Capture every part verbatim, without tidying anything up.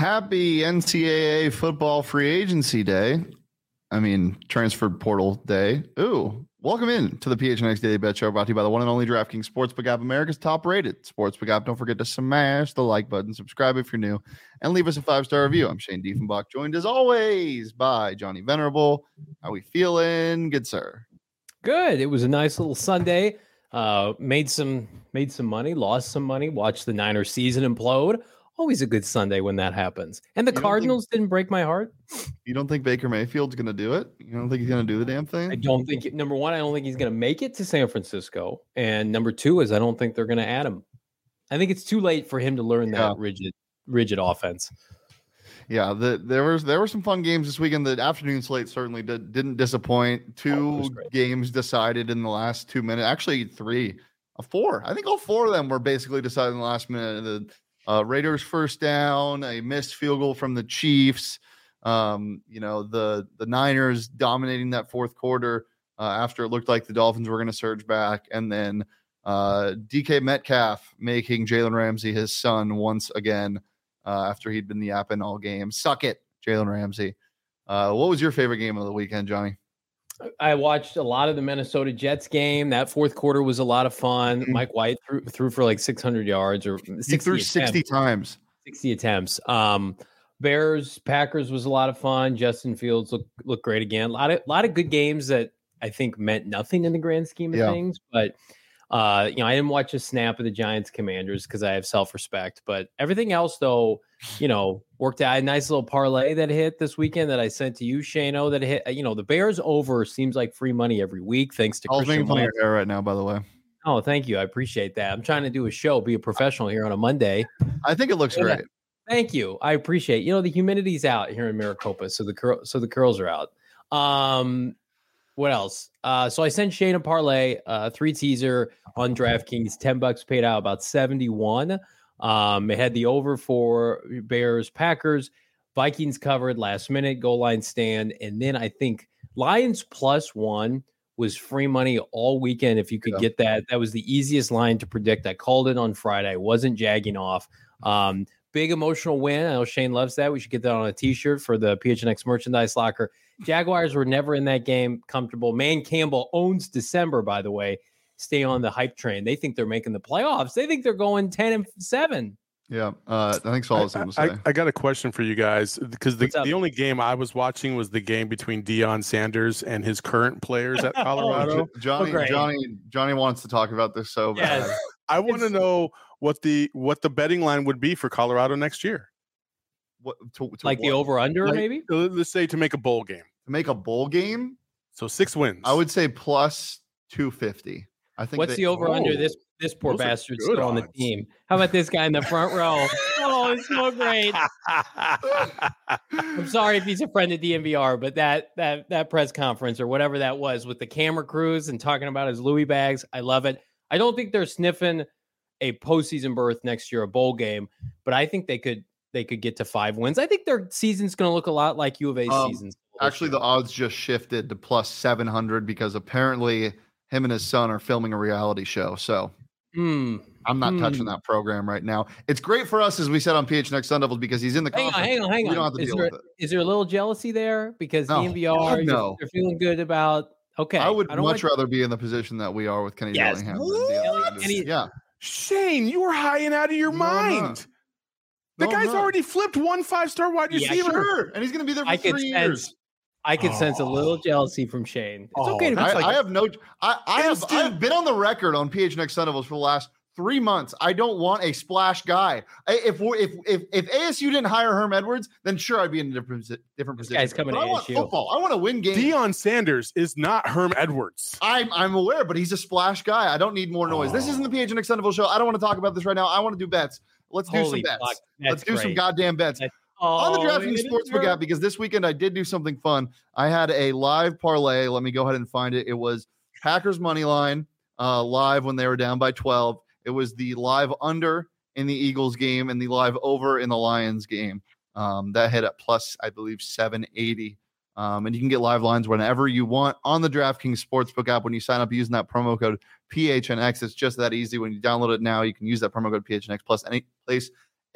Happy N C double A football free agency day. I mean, transfer portal day. Ooh, welcome in to the P H N X Daily Bet Show, brought to you by the one and only DraftKings Sportsbook app, America's top-rated sportsbook app. Don't forget to smash the like button, subscribe if you're new, and leave us a five-star review. I'm Shane Diefenbach, joined as always by Johnny Venerable. How we feeling? Good, sir. Good. It was a nice little Sunday. Uh, made some made some money, lost some money, watched the Niners season implode. Always a good Sunday when that happens. And the Cardinals think, didn't break my heart. You don't think Baker Mayfield's going to do it? You don't think he's going to do the damn thing? I don't think, number one, I don't think he's going to make it to San Francisco. And number two is I don't think they're going to add him. I think it's too late for him to learn that yeah. rigid rigid offense. Yeah, the, there was there were some fun games this weekend. The afternoon slate certainly did, didn't disappoint. Two oh, games decided in the last two minutes. Actually, three. Uh, four. I think all four of them were basically decided in the last minute. The Uh, Raiders first down, a missed field goal from the Chiefs. Um, you know, the the Niners dominating that fourth quarter uh, after it looked like the Dolphins were going to surge back. And then uh, D K Metcalf making Jalen Ramsey his son once again uh, after he'd been yapping all game. Suck it, Jalen Ramsey. Uh, what was your favorite game of the weekend, Johnny? I watched a lot of the Minnesota Jets game. That fourth quarter was a lot of fun. Mm-hmm. Mike White threw, threw for like six hundred yards or sixty he threw sixty times. sixty attempts. Um, Bears, Packers was a lot of fun. Justin Fields looked looked great again. A lot of, lot of good games that I think meant nothing in the grand scheme of yeah. things. But, uh, you know, I didn't watch a snap of the Giants Commanders because I have self-respect. But everything else, though, you know, worked out. A nice little parlay that hit this weekend that I sent to you, Shano, that hit. You know, the Bears over seems like free money every week, thanks to I was making fun of your hair right now, by the way. Oh, thank you. I appreciate that. I'm trying to do a show, be a professional here on a Monday. I think it looks yeah. great. Thank you. I appreciate it. You know, the humidity's out here in Maricopa, so the cur- so the curls are out. Um, what else? Uh, so I sent Shane a parlay, uh, three teaser on DraftKings, ten bucks paid out about seventy-one. Um, it had the over for Bears, Packers, Vikings covered last minute goal line stand, and then I think Lions plus one was free money all weekend. If you could yeah. get that, that was the easiest line to predict. I called it on Friday. I wasn't jagging off. Um, big emotional win. I know Shane loves that. We should get that on a T-shirt for the P H N X merchandise locker. Jaguars were never in that game comfortable. Man Campbell owns December, by the way. Stay on the hype train. They think they're making the playoffs. They think they're going ten and seven. Yeah, uh, I think so. I, I, I, I got a question for you guys because the, the only game I was watching was the game between Deion Sanders and his current players at Colorado. oh, Johnny, oh, Johnny, Johnny wants to talk about this so bad. Yes. I want to know what the what the betting line would be for Colorado next year. What to, to like what? the over under like, maybe? Let's say to make a bowl game. To make a bowl game, so six wins. I would say plus two fifty. I think. What's they, the over oh, under? This this poor bastard's still on the team. How about this guy in the front row? Oh, it's so great. I'm sorry if he's a friend of D M V R, but that that that press conference or whatever that was with the camera crews and talking about his Louis bags, I love it. I don't think they're sniffing a postseason berth next year, a bowl game, but I think they could they could get to five wins. I think their season's going to look a lot like U of A's um, seasons. Actually, the odds just shifted to plus seven hundred because apparently him and his son are filming a reality show. So mm. I'm not mm. touching that program right now. It's great for us, as we said on P H N X Sun Devils, because he's in the hang conference. On, hang on, hang on. We don't have to is deal there, with it. Is there a little jealousy there? Because no. D M V R, no. they're feeling good about, okay. I would I much want... rather be in the position that we are with Kenny yes. Dillingham. Kenny, yeah. Shane, you were high and out of your no, mind. The no, guy's already flipped one five-star wide receiver. Yeah, sure. And he's going to be there for I three sense, years. I could oh. sense a little jealousy from Shane. It's oh, okay to I, like, I have no I, I have I have been on the record on P H N X Sun Devils for the last three months. I don't want a splash guy. If we if if if A S U didn't hire Herm Edwards, then sure I'd be in a different different this position. Guy's coming but to I want A S U. football. I want to win games. Deion Sanders is not Herm Edwards. I'm I'm aware, but he's a splash guy. I don't need more noise. Oh. This isn't the P H N X Sun Devils show. I don't want to talk about this right now. I want to do bets. Let's do Holy some bets. Fuck, Let's do great. some goddamn bets. That's, on the oh, DraftKings Sportsbook app, because this weekend I did do something fun. I had a live parlay. Let me go ahead and find it. It was Packers money line uh, live when they were down by twelve. It was the live under in the Eagles game and the live over in the Lions game. Um, that hit at plus, I believe, seven eighty. Um, and you can get live lines whenever you want on the DraftKings Sportsbook app when you sign up using that promo code P H N X. It's just that easy. When you download it now, you can use that promo code P H N X plus any place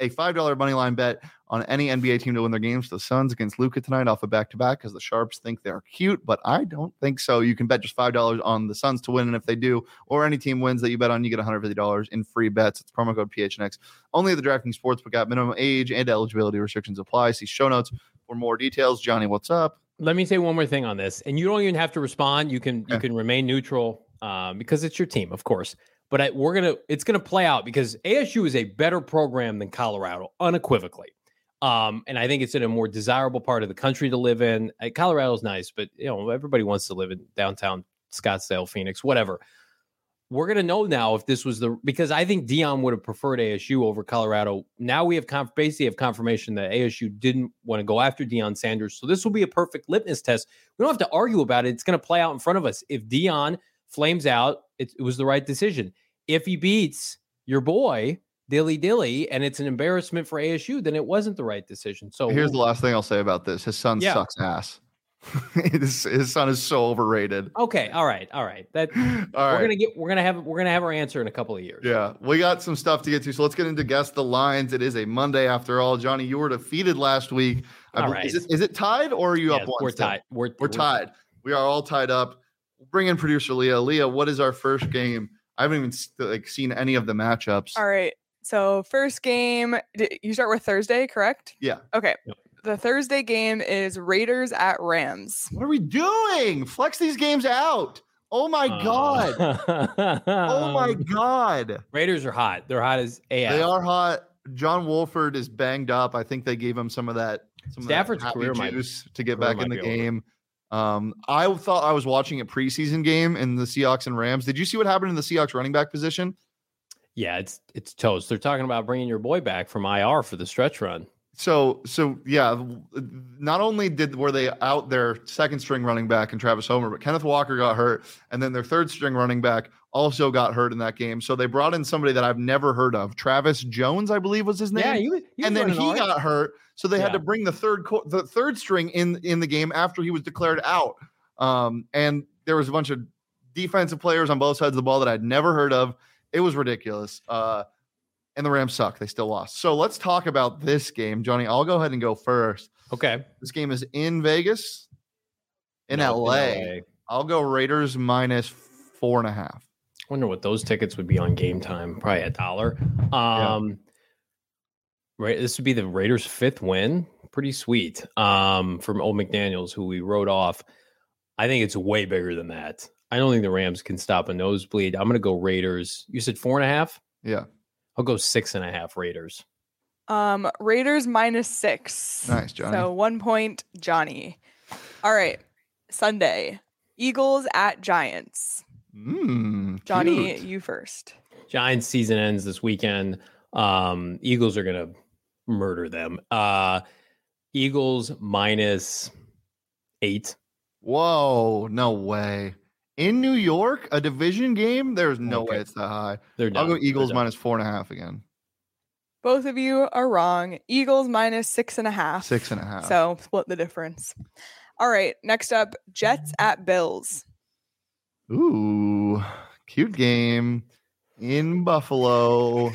a five dollar money line bet on any N B A team to win their games. The Suns against Luka tonight off a back-to-back because the Sharps think they're cute, but I don't think so. You can bet just five dollars on the Suns to win, and if they do, or any team wins that you bet on, you get one hundred fifty dollars in free bets. It's promo code P H N X. Only at the DraftKings Sportsbook app. Minimum age and eligibility restrictions apply. See show notes for more details. Johnny, what's up? Let me say one more thing on this, and you don't even have to respond. You can Okay. you can remain neutral um, because it's your team, of course. But I, we're gonna it's gonna play out because A S U is a better program than Colorado, unequivocally. Um, and I think it's in a more desirable part of the country to live in. Uh, Colorado's nice, but you know everybody wants to live in downtown Scottsdale, Phoenix, whatever. We're gonna know now if this was the because I think Dion would have preferred A S U over Colorado. Now we have conf- basically have confirmation that A S U didn't want to go after Deion Sanders, so this will be a perfect litmus test. We don't have to argue about it. It's going to play out in front of us. If Dion flames out, it, it was the right decision. If he beats your boy Dilly Dilly and it's an embarrassment for A S U, then it wasn't the right decision. So Here's the last thing I'll say about this: his son Yeah. sucks ass. his, his son is so overrated. Okay, all right, all right. That All we're right. gonna get we're gonna have we're gonna have our answer in a couple of years. Yeah, we got some stuff to get to, so let's get into guess the lines. It is a Monday after all. Johnny, you were defeated last week. I All bel- right. Is it, is it tied or are you Yeah, up one? we're still? tied. We're, We're tied. We are all tied up. We'll bring in producer Leah. Leah, what is our first game? I haven't even s- like seen any of the matchups. All right. So first game, d- you start with Thursday, correct? Yeah. Okay. Yep. The Thursday game is Raiders at Rams. What are we doing? Flex these games out. Oh my god. Oh my god. Raiders are hot. They're hot as A F. They are hot. John Wolford is banged up. I think they gave him some of that. Some Stafford's of that happy career might- juice to get career back in the might be over. game. Um, I thought I was watching a preseason game in the Seahawks and Rams. Did you see what happened in the Seahawks running back position? Yeah, it's it's toast. They're talking about bringing your boy back from I R for the stretch run. So, so yeah, not only did were they out their second string running back and Travis Homer, but Kenneth Walker got hurt, and then their third string running back also got hurt in that game. So they brought in somebody that I've never heard of, Travis Jones, I believe was his name. Yeah, you, you and then he got hurt, so they had Yeah. to bring the third co- the third string in in the game after he was declared out. Um, and there was a bunch of defensive players on both sides of the ball that I'd never heard of. It was ridiculous. Uh, and the Rams suck. They still lost. So let's talk about this game, Johnny. I'll go ahead and go first. Okay. This game is in Vegas, in No, L A. L A. I'll go Raiders minus four and a half. Wonder what those tickets would be on Game Time. Probably a dollar. Um, right. This would be the Raiders' fifth win. Pretty sweet. Um, from Old McDaniels, who we wrote off. I think it's way bigger than that. I don't think the Rams can stop a nosebleed. I'm going to go Raiders. You said four and a half? Yeah. I'll go six and a half Raiders. Um, Raiders minus six. Nice, Johnny. So one point, Johnny. All right. Sunday, Eagles at Giants. Mm, Johnny, cute. you first. Giants season ends this weekend. Um, Eagles are going to murder them. Uh, Eagles minus eight. Whoa, no way. In New York, a division game? There's no Okay. way it's that high. They're I'll done. go They're Eagles done. minus four and a half again. Both of you are wrong. Eagles minus six and a half. Six and a half. So split the difference. All right. Next up, Jets at Bills. Ooh, cute game in Buffalo.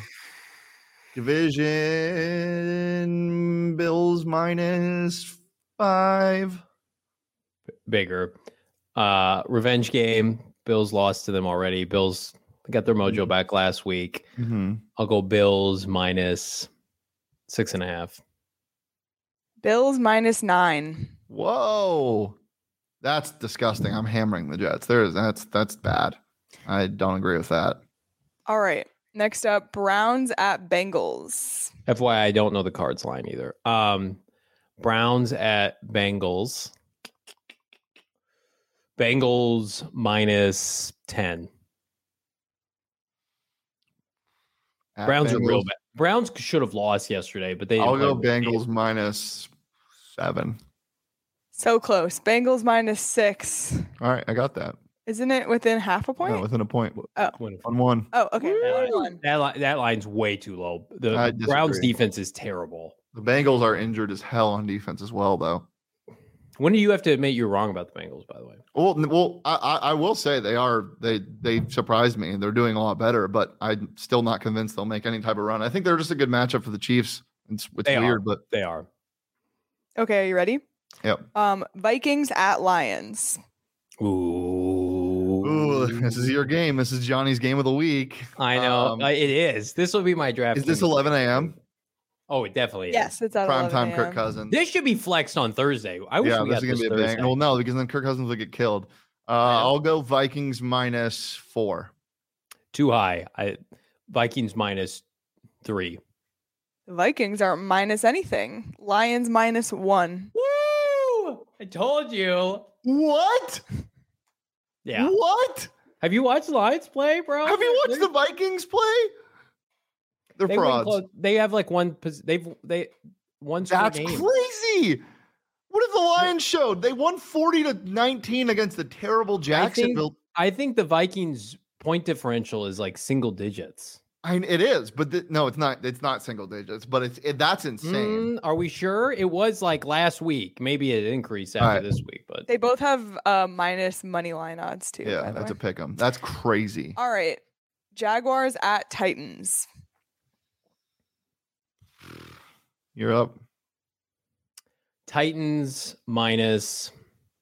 Division Bills minus five. Bigger. Uh, revenge game. Bills lost to them already. Bills got their mojo Mhm. back last week. Mm-hmm. I'll go Bills minus six and a half. Bills minus nine. Whoa, that's disgusting. I'm hammering the Jets. There's that's that's bad. I don't agree with that. All right. Next up, Browns at Bengals. F Y I, I don't know the Cards line either. Um, Browns at Bengals. Bengals minus ten. At Browns are real Bengals, bad. Browns should have lost yesterday, but they didn't I'll play go a real game. Bengals minus seven. So close. Bengals minus six. All right, I got that. Isn't it within half a point? No, within a point. Win. On one. Oh, okay. That, Hold line, on. that, line, that line's way too low. The I Browns disagree. defense is terrible. The Bengals are injured as hell on defense as well, though. When do you have to admit you're wrong about the Bengals, by the way? Well, well, I, I will say they are they they surprised me. They're doing a lot better, but I'm still not convinced they'll make any type of run. I think they're just a good matchup for the Chiefs. It's, it's They weird, are. but They are. Okay, are you ready? Yep. Um, Vikings at Lions. Ooh. Ooh, this is your game. This is Johnny's game of the week. I know. Um, Uh, it is. This will be my draft. Is this game. eleven a.m.? Oh, it definitely is. Yes, it's at Prime time eleven a m. Kirk Cousins. This should be flexed on Thursday. I wish Yeah, we this got is this gonna be a Thursday. bang. Well, no, because then Kirk Cousins will get killed. Uh, I'll go Vikings minus four. Too high. I Vikings minus three. The Vikings aren't minus anything. Lions minus one. Woo! I told you. What? Yeah. What? Have you watched Lions play, bro? Have you watched They're- the Vikings play? They're They win frauds. close- They have like one. pos- They've they one. straight That's game. crazy. What have the Lions showed? They won forty to nineteen against the terrible Jacksonville. I think the Vikings point differential is like single digits. I mean, it is, but th- no, it's not. It's not single digits, but it's it, that's insane. Mm, are we sure? It was like last week. Maybe it increased after Alright. this week, but They both have uh, minus money line odds too. Yeah, by the that's way. a pick 'em. That's crazy. All right. Jaguars at Titans. You're up. Titans minus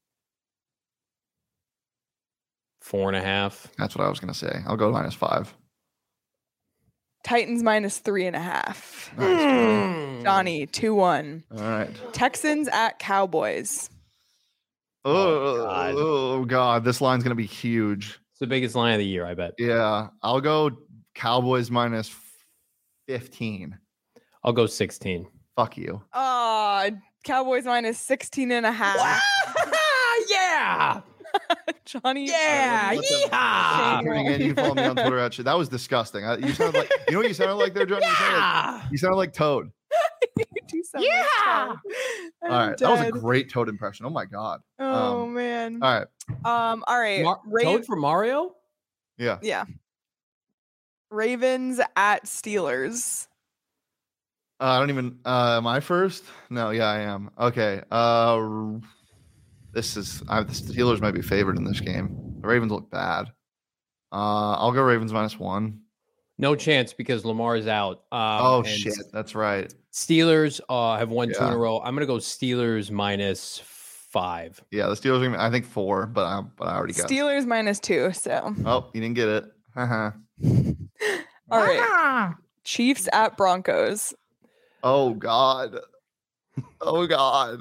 four and a half. That's what I was gonna say. I'll go minus five. Titans minus three and a half. Nice, Johnny. Mm. Johnny, two one. All right. Texans at Cowboys. Oh, God. oh God, this line's gonna be huge. It's the biggest line of the year, I bet. Yeah, I'll go Cowboys minus fifteen. I'll go sixteen. Fuck you. Ah, Cowboys minus sixteen and a half. yeah. Johnny. Yeah. Let them- Yeehaw. Tuning in, you can follow me on Twitter. Actually, that was disgusting. I, you sounded like you know what you sounded like there, Johnny. You sounded like, Yeah. you sounded like Toad. You do sound like Yeah. Toad. All I'm right, that was a dead. great Toad impression. Oh my God. Oh um, man. All right. Um. All right. Mar- Ra- Toad for Mario? Yeah. yeah. Ravens at Steelers. Uh, I don't even. Uh, am I first? No. Yeah, I am. Okay. Uh, this is. I, the Steelers might be favored in this game. The Ravens look bad. Uh, I'll go Ravens minus one. No chance because Lamar is out. Um, oh and shit, that's right. Steelers uh, have won two in Yeah. a row. I'm gonna go Steelers minus five. Yeah, the Steelers. Are gonna, I think four, but I, but I already got. Steelers minus two. So. Oh, you didn't get it. Haha. All right. Chiefs at Broncos. Oh God. Oh God.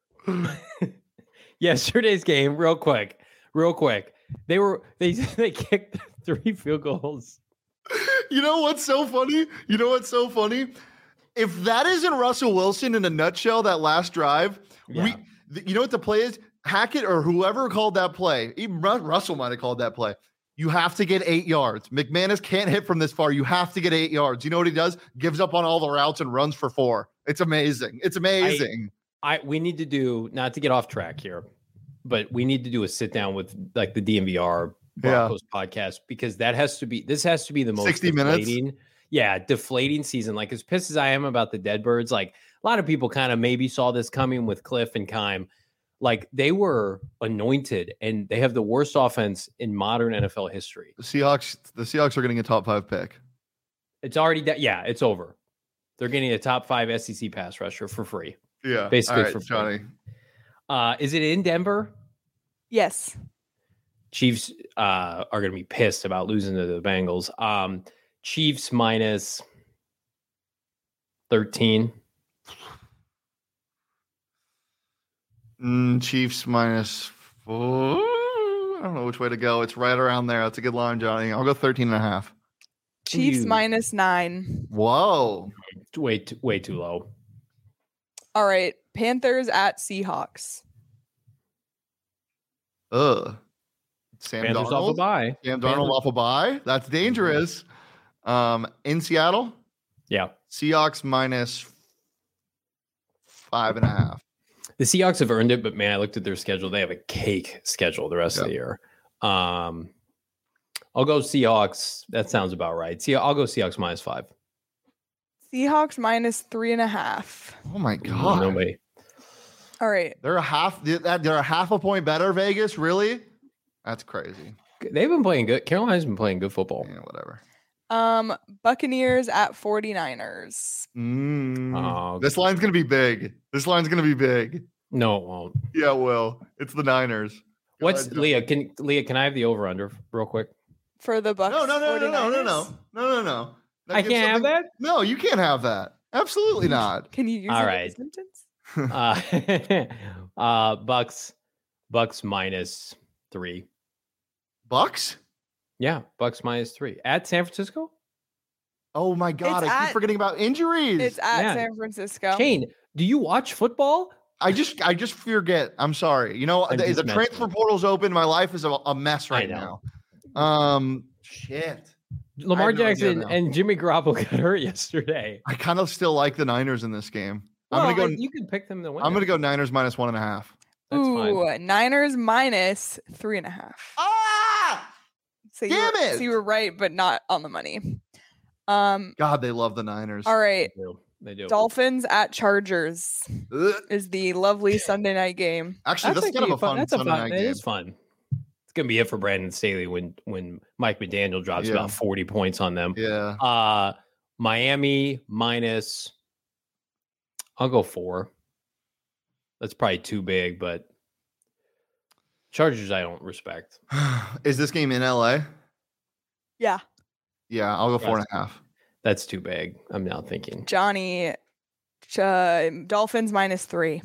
Yesterday's game, real quick, real quick. They were they they kicked three field goals. You know what's so funny? You know what's so funny? If that isn't Russell Wilson in a nutshell, that last drive, Yeah. we, th- you know what the play is? Hackett or whoever called that play, even Ru- Russell might have called that play. You have to get eight yards. McManus can't hit from this far. You have to get eight yards. You know what he does? Gives up on all the routes and runs for four. It's amazing. It's amazing. I we need to do not to get off track here, but we need to do a sit down with like the D M V R Broncos podcast because that has to be this has to be the most sixty minutes? deflating, yeah, deflating season. Like as pissed as I am about the Deadbirds, like a lot of people kind of maybe saw this coming with Cliff and Kime. Like they were anointed and they have the worst offense in modern N F L history. The Seahawks, the Seahawks are getting a top five pick. It's already that, yeah, it's over. They're getting a top five S E C pass rusher for free. Yeah. Basically All right, for free. Johnny. Uh, is it in Denver? Yes. Chiefs uh, are going to be pissed about losing to the Bengals. Um, Chiefs minus thirteen. Mm, Chiefs minus four. I don't know which way to go. It's right around there. That's a good line, Johnny. I'll go thirteen and a half. Chiefs You- minus nine. Whoa. Way too, way too low. All right. Panthers at Seahawks. Ugh. Sam Panthers off a Darnold. bye. Sam Darnold Panthers- off a bye. That's dangerous. Um, in Seattle, Yeah. Seahawks minus five and a half. The Seahawks have earned it, but man, I looked at their schedule. They have a cake schedule the rest of Yeah. the year. Um, I'll go Seahawks. That sounds about right. See, I'll go Seahawks minus five. Seahawks minus three and a half. Oh my Ooh, god. Nobody. All right. They're a half. They're a half a point better. Vegas, really? That's crazy. They've been playing good. Carolina's been playing good football. Yeah, whatever. Um, Buccaneers at 49ers. Mm. Oh, this line's gonna be big. This line's gonna be big. No, it won't. Yeah, it will. It's the Niners. Go What's ahead, Leah? Can Leah? Can I have the over under real quick? For the Bucs. No, no, no, no, no, no, 49ers? no, no, no, no. That I gives can't have something- that. No, you can't have that. Absolutely not. Can you use All it right. in a sentence? uh, uh, Bucks, Bucks minus three. Bucks? Yeah, Bucks minus three at San Francisco. Oh my God! It's I keep at- forgetting about injuries. It's at Yeah. San Francisco. Shane, do you watch football? I just, I just forget. I'm sorry. You know, I'm the, just the messing transfer with you. portal's open. My life is a, a mess I right know. now. Um, shit. Lamar have no idea Jackson now. and Jimmy Garoppolo got hurt yesterday. I kind of still like the Niners in this game. I'm Well, gonna go. You can pick them to win. I'm gonna it. go Niners minus one and a half. That's fine. Ooh, Niners minus three and a half. Ah! So you Damn were, it! So you were right, but not on the money. Um. God, they love the Niners. All right. They do. They do. Dolphins at Chargers Ugh. is the lovely Sunday night game. Actually, that's, kind of actually a fun That's a Sunday fun. night It game. is fun. It's gonna be it for Brandon Staley when when Mike McDaniel drops Yeah. about forty points on them. Yeah. Uh Miami minus. I'll go four. That's probably too big, but Chargers I don't respect. Is this game in L A? Yeah. Yeah, I'll go four and a half. That's too big. I'm now thinking. Johnny, uh, Dolphins minus three.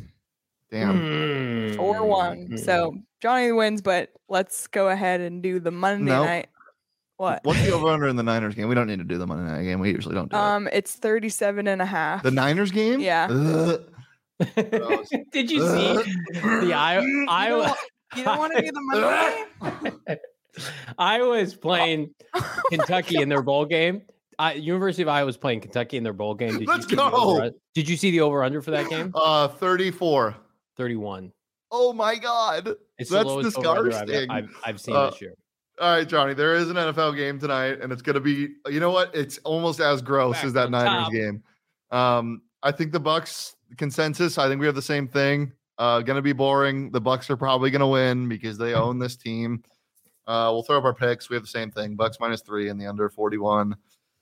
Damn. Four one. Mm. So Johnny wins, but let's go ahead and do the Monday Nope. night. What? What's the over under in the Niners game? We don't need to do the Monday night game. We usually don't do Um, it's thirty-seven and a half. it. The Niners game? Yeah. Ugh. Gross. Did you see the I- You Iowa? don't- You don't want to do the Monday night? Iowa's playing Kentucky in their bowl game. I, University of Iowa was playing Kentucky in their bowl game. Did Let's you see the go. over- Did you see the over under for that game? Uh, thirty-four. thirty-one. Oh my God. It's That's the lowest over-under disgusting. I've, I've, I've seen Uh, this year. All right, Johnny, there is an N F L game tonight, and it's going to be, you know what? It's almost as gross Back as that on Niners top. game. Um, I think the Bucks consensus, I think we have the same thing. Uh, going to be boring. The Bucks are probably going to win because they own this team. Uh, we'll throw up our picks. We have the same thing. Bucks minus three and the under forty-one.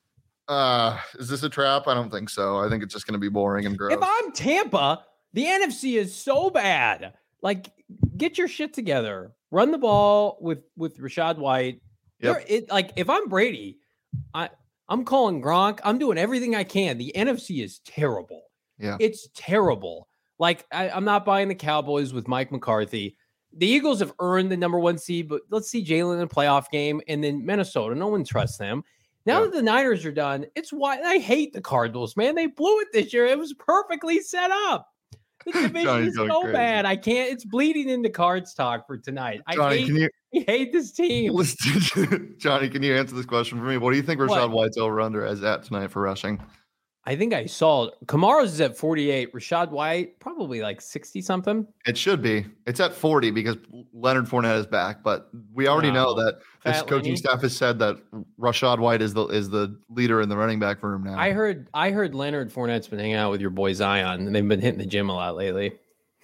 Uh, is this a trap? I don't think so. I think it's just going to be boring and gross. If I'm Tampa, the N F C is so bad. Like, get your shit together. Run the ball with with Rashad White. Yep. There- It, like, if I'm Brady, I I'm calling Gronk. I'm doing everything I can. The N F C is terrible. Yeah. It's terrible. Like, I, I'm not buying the Cowboys with Mike McCarthy. The Eagles have earned the number one seed, but let's see Jalen in a playoff game. And then Minnesota, no one trusts them. Now Yeah. that the Niners are done, it's why I hate the Cardinals, man. They blew it this year. It was perfectly set up. The division Johnny's is going so crazy. bad. I can't. It's bleeding into cards talk for tonight. I Johnny, hate, can you I hate this team. listen, Johnny, can you answer this question for me? What do you think Rashad What? White's over under as at tonight for rushing? I think I saw Kamara's is at forty-eight. Rashad White probably like sixty something. It should be. It's at forty because Leonard Fournette is back, but we already know Wow. that this Fat coaching Lenny. staff has said that Rashad White is the is the leader in the running back room now. I heard I heard Leonard Fournette's been hanging out with your boy Zion, and they've been hitting the gym a lot lately.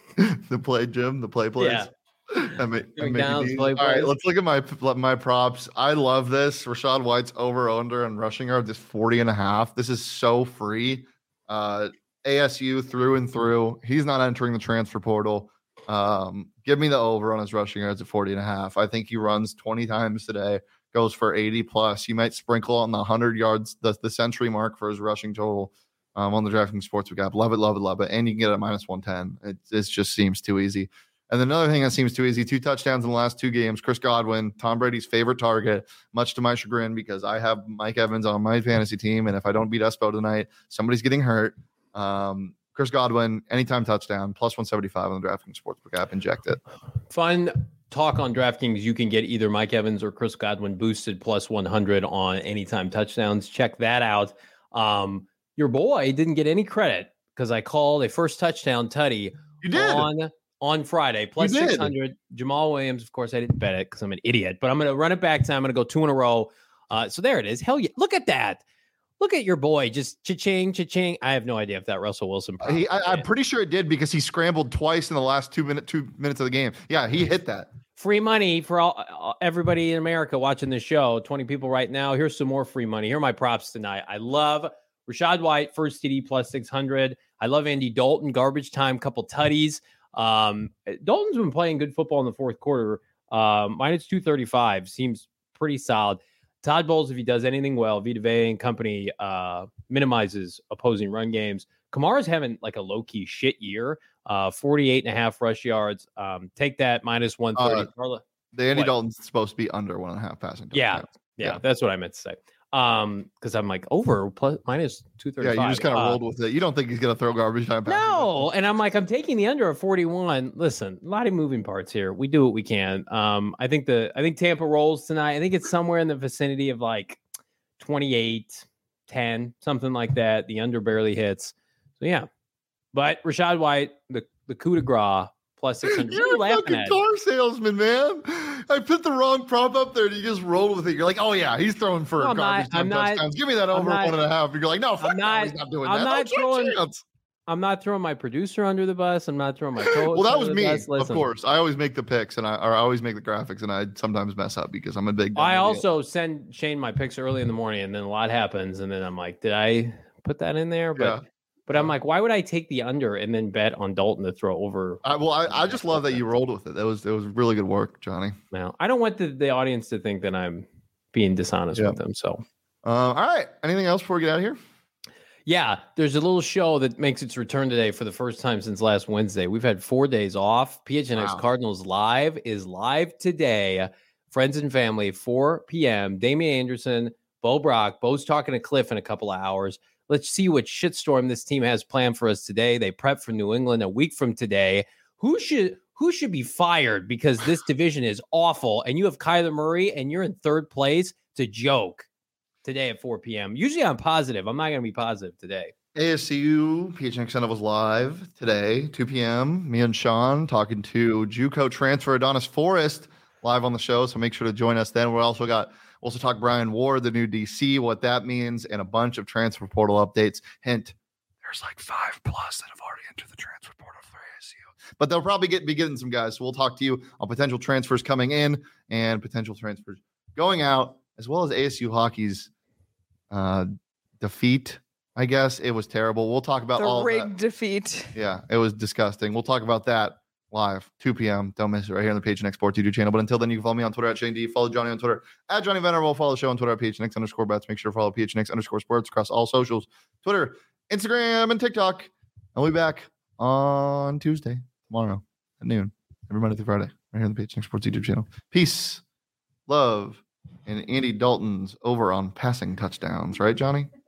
the play gym, the play plays. Yeah. That may- that Doing may be downs, neat. play All right, plays. let's look at my my props. I love this. Rashad White's over under and rushing yards is forty and a half. This is so free. Uh, A S U through and through. He's not entering the transfer portal. Um, give me the over on his rushing yards at forty and a half. I think he runs twenty times today, goes for eighty plus. He might sprinkle on the one hundred yards, the, the century mark for his rushing total um, on the DraftKings Sportsbook app. Love it, love it, love it. And you can get it at minus one ten. It, it just seems too easy. And another thing that seems too easy, two touchdowns in the last two games. Chris Godwin, Tom Brady's favorite target, much to my chagrin because I have Mike Evans on my fantasy team. And if I don't beat Espo tonight, somebody's getting hurt. Um, Chris Godwin, anytime touchdown, plus one seventy-five on the DraftKings Sportsbook app. Inject it. Fun talk on DraftKings. You can get either Mike Evans or Chris Godwin boosted plus one hundred on anytime touchdowns. Check that out. Um, your boy didn't get any credit because I called a first touchdown tutty You did. on on Friday, plus You did. six hundred. Jamal Williams, of course, I didn't bet it because I'm an idiot, but I'm going to run it back to I'm going to go two in a row. Uh, so there it is. Hell yeah. Look at that. Look at your boy, just cha-ching, cha-ching. I have no idea if that Russell Wilson. He, I, I'm pretty sure it did because he scrambled twice in the last two minute two minutes of the game. Yeah, he hit that. Free money for all everybody in America watching this show. twenty people right now. Here's some more free money. Here are my props tonight. I love Rachaad White, first T D plus six hundred. I love Andy Dalton, garbage time, couple tutties. Um, Dalton's been playing good football in the fourth quarter. Um, minus two thirty-five seems pretty solid. Todd Bowles, if he does anything well, Vita Vea and company uh, minimizes opposing run games. Kamara's having like a low-key shit year. Uh, forty-eight and a half rush yards. Um, take that minus one thirty. Uh, the Andy what? Dalton's supposed to be under one and a half passing. Yeah, yeah, yeah, that's what I meant to say. Um, because I'm like over plus minus two thirty-five. Yeah, you just kind of uh, rolled with it. You don't think he's gonna throw garbage time passes? No, and I'm like, I'm taking the under of forty-one. Listen, a lot of moving parts here. We do what we can. Um, I think the I think Tampa rolls tonight. I think it's somewhere in the vicinity of like twenty-eight, ten, something like that. The under barely hits. So yeah. But Rachaad White, the, the coup de grace, plus six hundred. You're a fucking at? car salesman, man. I put the wrong prop up there and you just roll with it. You're like, oh, yeah, he's throwing for no, garbage time touchdowns. Not, Give me that over not, one and a half. You're like, no, fuck I'm not, no, he's not doing I'm that. Not That's throwing, I'm not throwing my producer under the bus. I'm not throwing my co-host Well, that was me, of course. I always make the picks and I, or I always make the graphics and I sometimes mess up because I'm a big I also deal. send Shane my picks early in the morning and then a lot happens. And then I'm like, did I put that in there? But yeah. But I'm like, why would I take the under and then bet on Dalton to throw over? I, well, I, I just love that you rolled with it. That was it was really good work, Johnny. Now, I don't want the, the audience to think that I'm being dishonest yeah. with them. So, uh, all right. Anything else before we get out of here? Yeah, there's a little show that makes its return today for the first time since last Wednesday. We've had four days off. P H N X wow. Cardinals Live is live today. Friends and family, four p.m. Damian Anderson, Bo Brock. Bo's talking to Cliff in a couple of hours. Let's see what shitstorm this team has planned for us today. They prep for New England a week from today. Who should who should be fired because this division is awful and you have Kyler Murray and you're in third place? It's a joke today at four p.m. Usually I'm positive. I'm not going to be positive today. A S U P H N X Center was live today, two p.m. Me and Sean talking to JUCO transfer Adonis Forrest live on the show. So make sure to join us then. We also got Also talk Brian Ward, the new D C, what that means, and a bunch of transfer portal updates. Hint, there's like five plus that have already entered the transfer portal for A S U. But they'll probably get be getting some guys. So we'll talk to you on potential transfers coming in and potential transfers going out, as well as A S U hockey's uh, defeat. I guess it was terrible. We'll talk about the all rigged of that. defeat. Yeah, it was disgusting. We'll talk about that live, two p.m. Don't miss it right here on the P H N X Sports YouTube channel. But until then, you can follow me on Twitter at Shane D. Follow Johnny on Twitter at Johnny Venerable. Follow the show on Twitter at P H N X underscore bets. Make sure to follow P H N X underscore sports across all socials, Twitter, Instagram, and TikTok. And we'll be back on Tuesday, tomorrow at noon, every Monday through Friday, right here on the P H N X Sports YouTube channel. Peace, love, and Andy Dalton's over on passing touchdowns. Right, Johnny?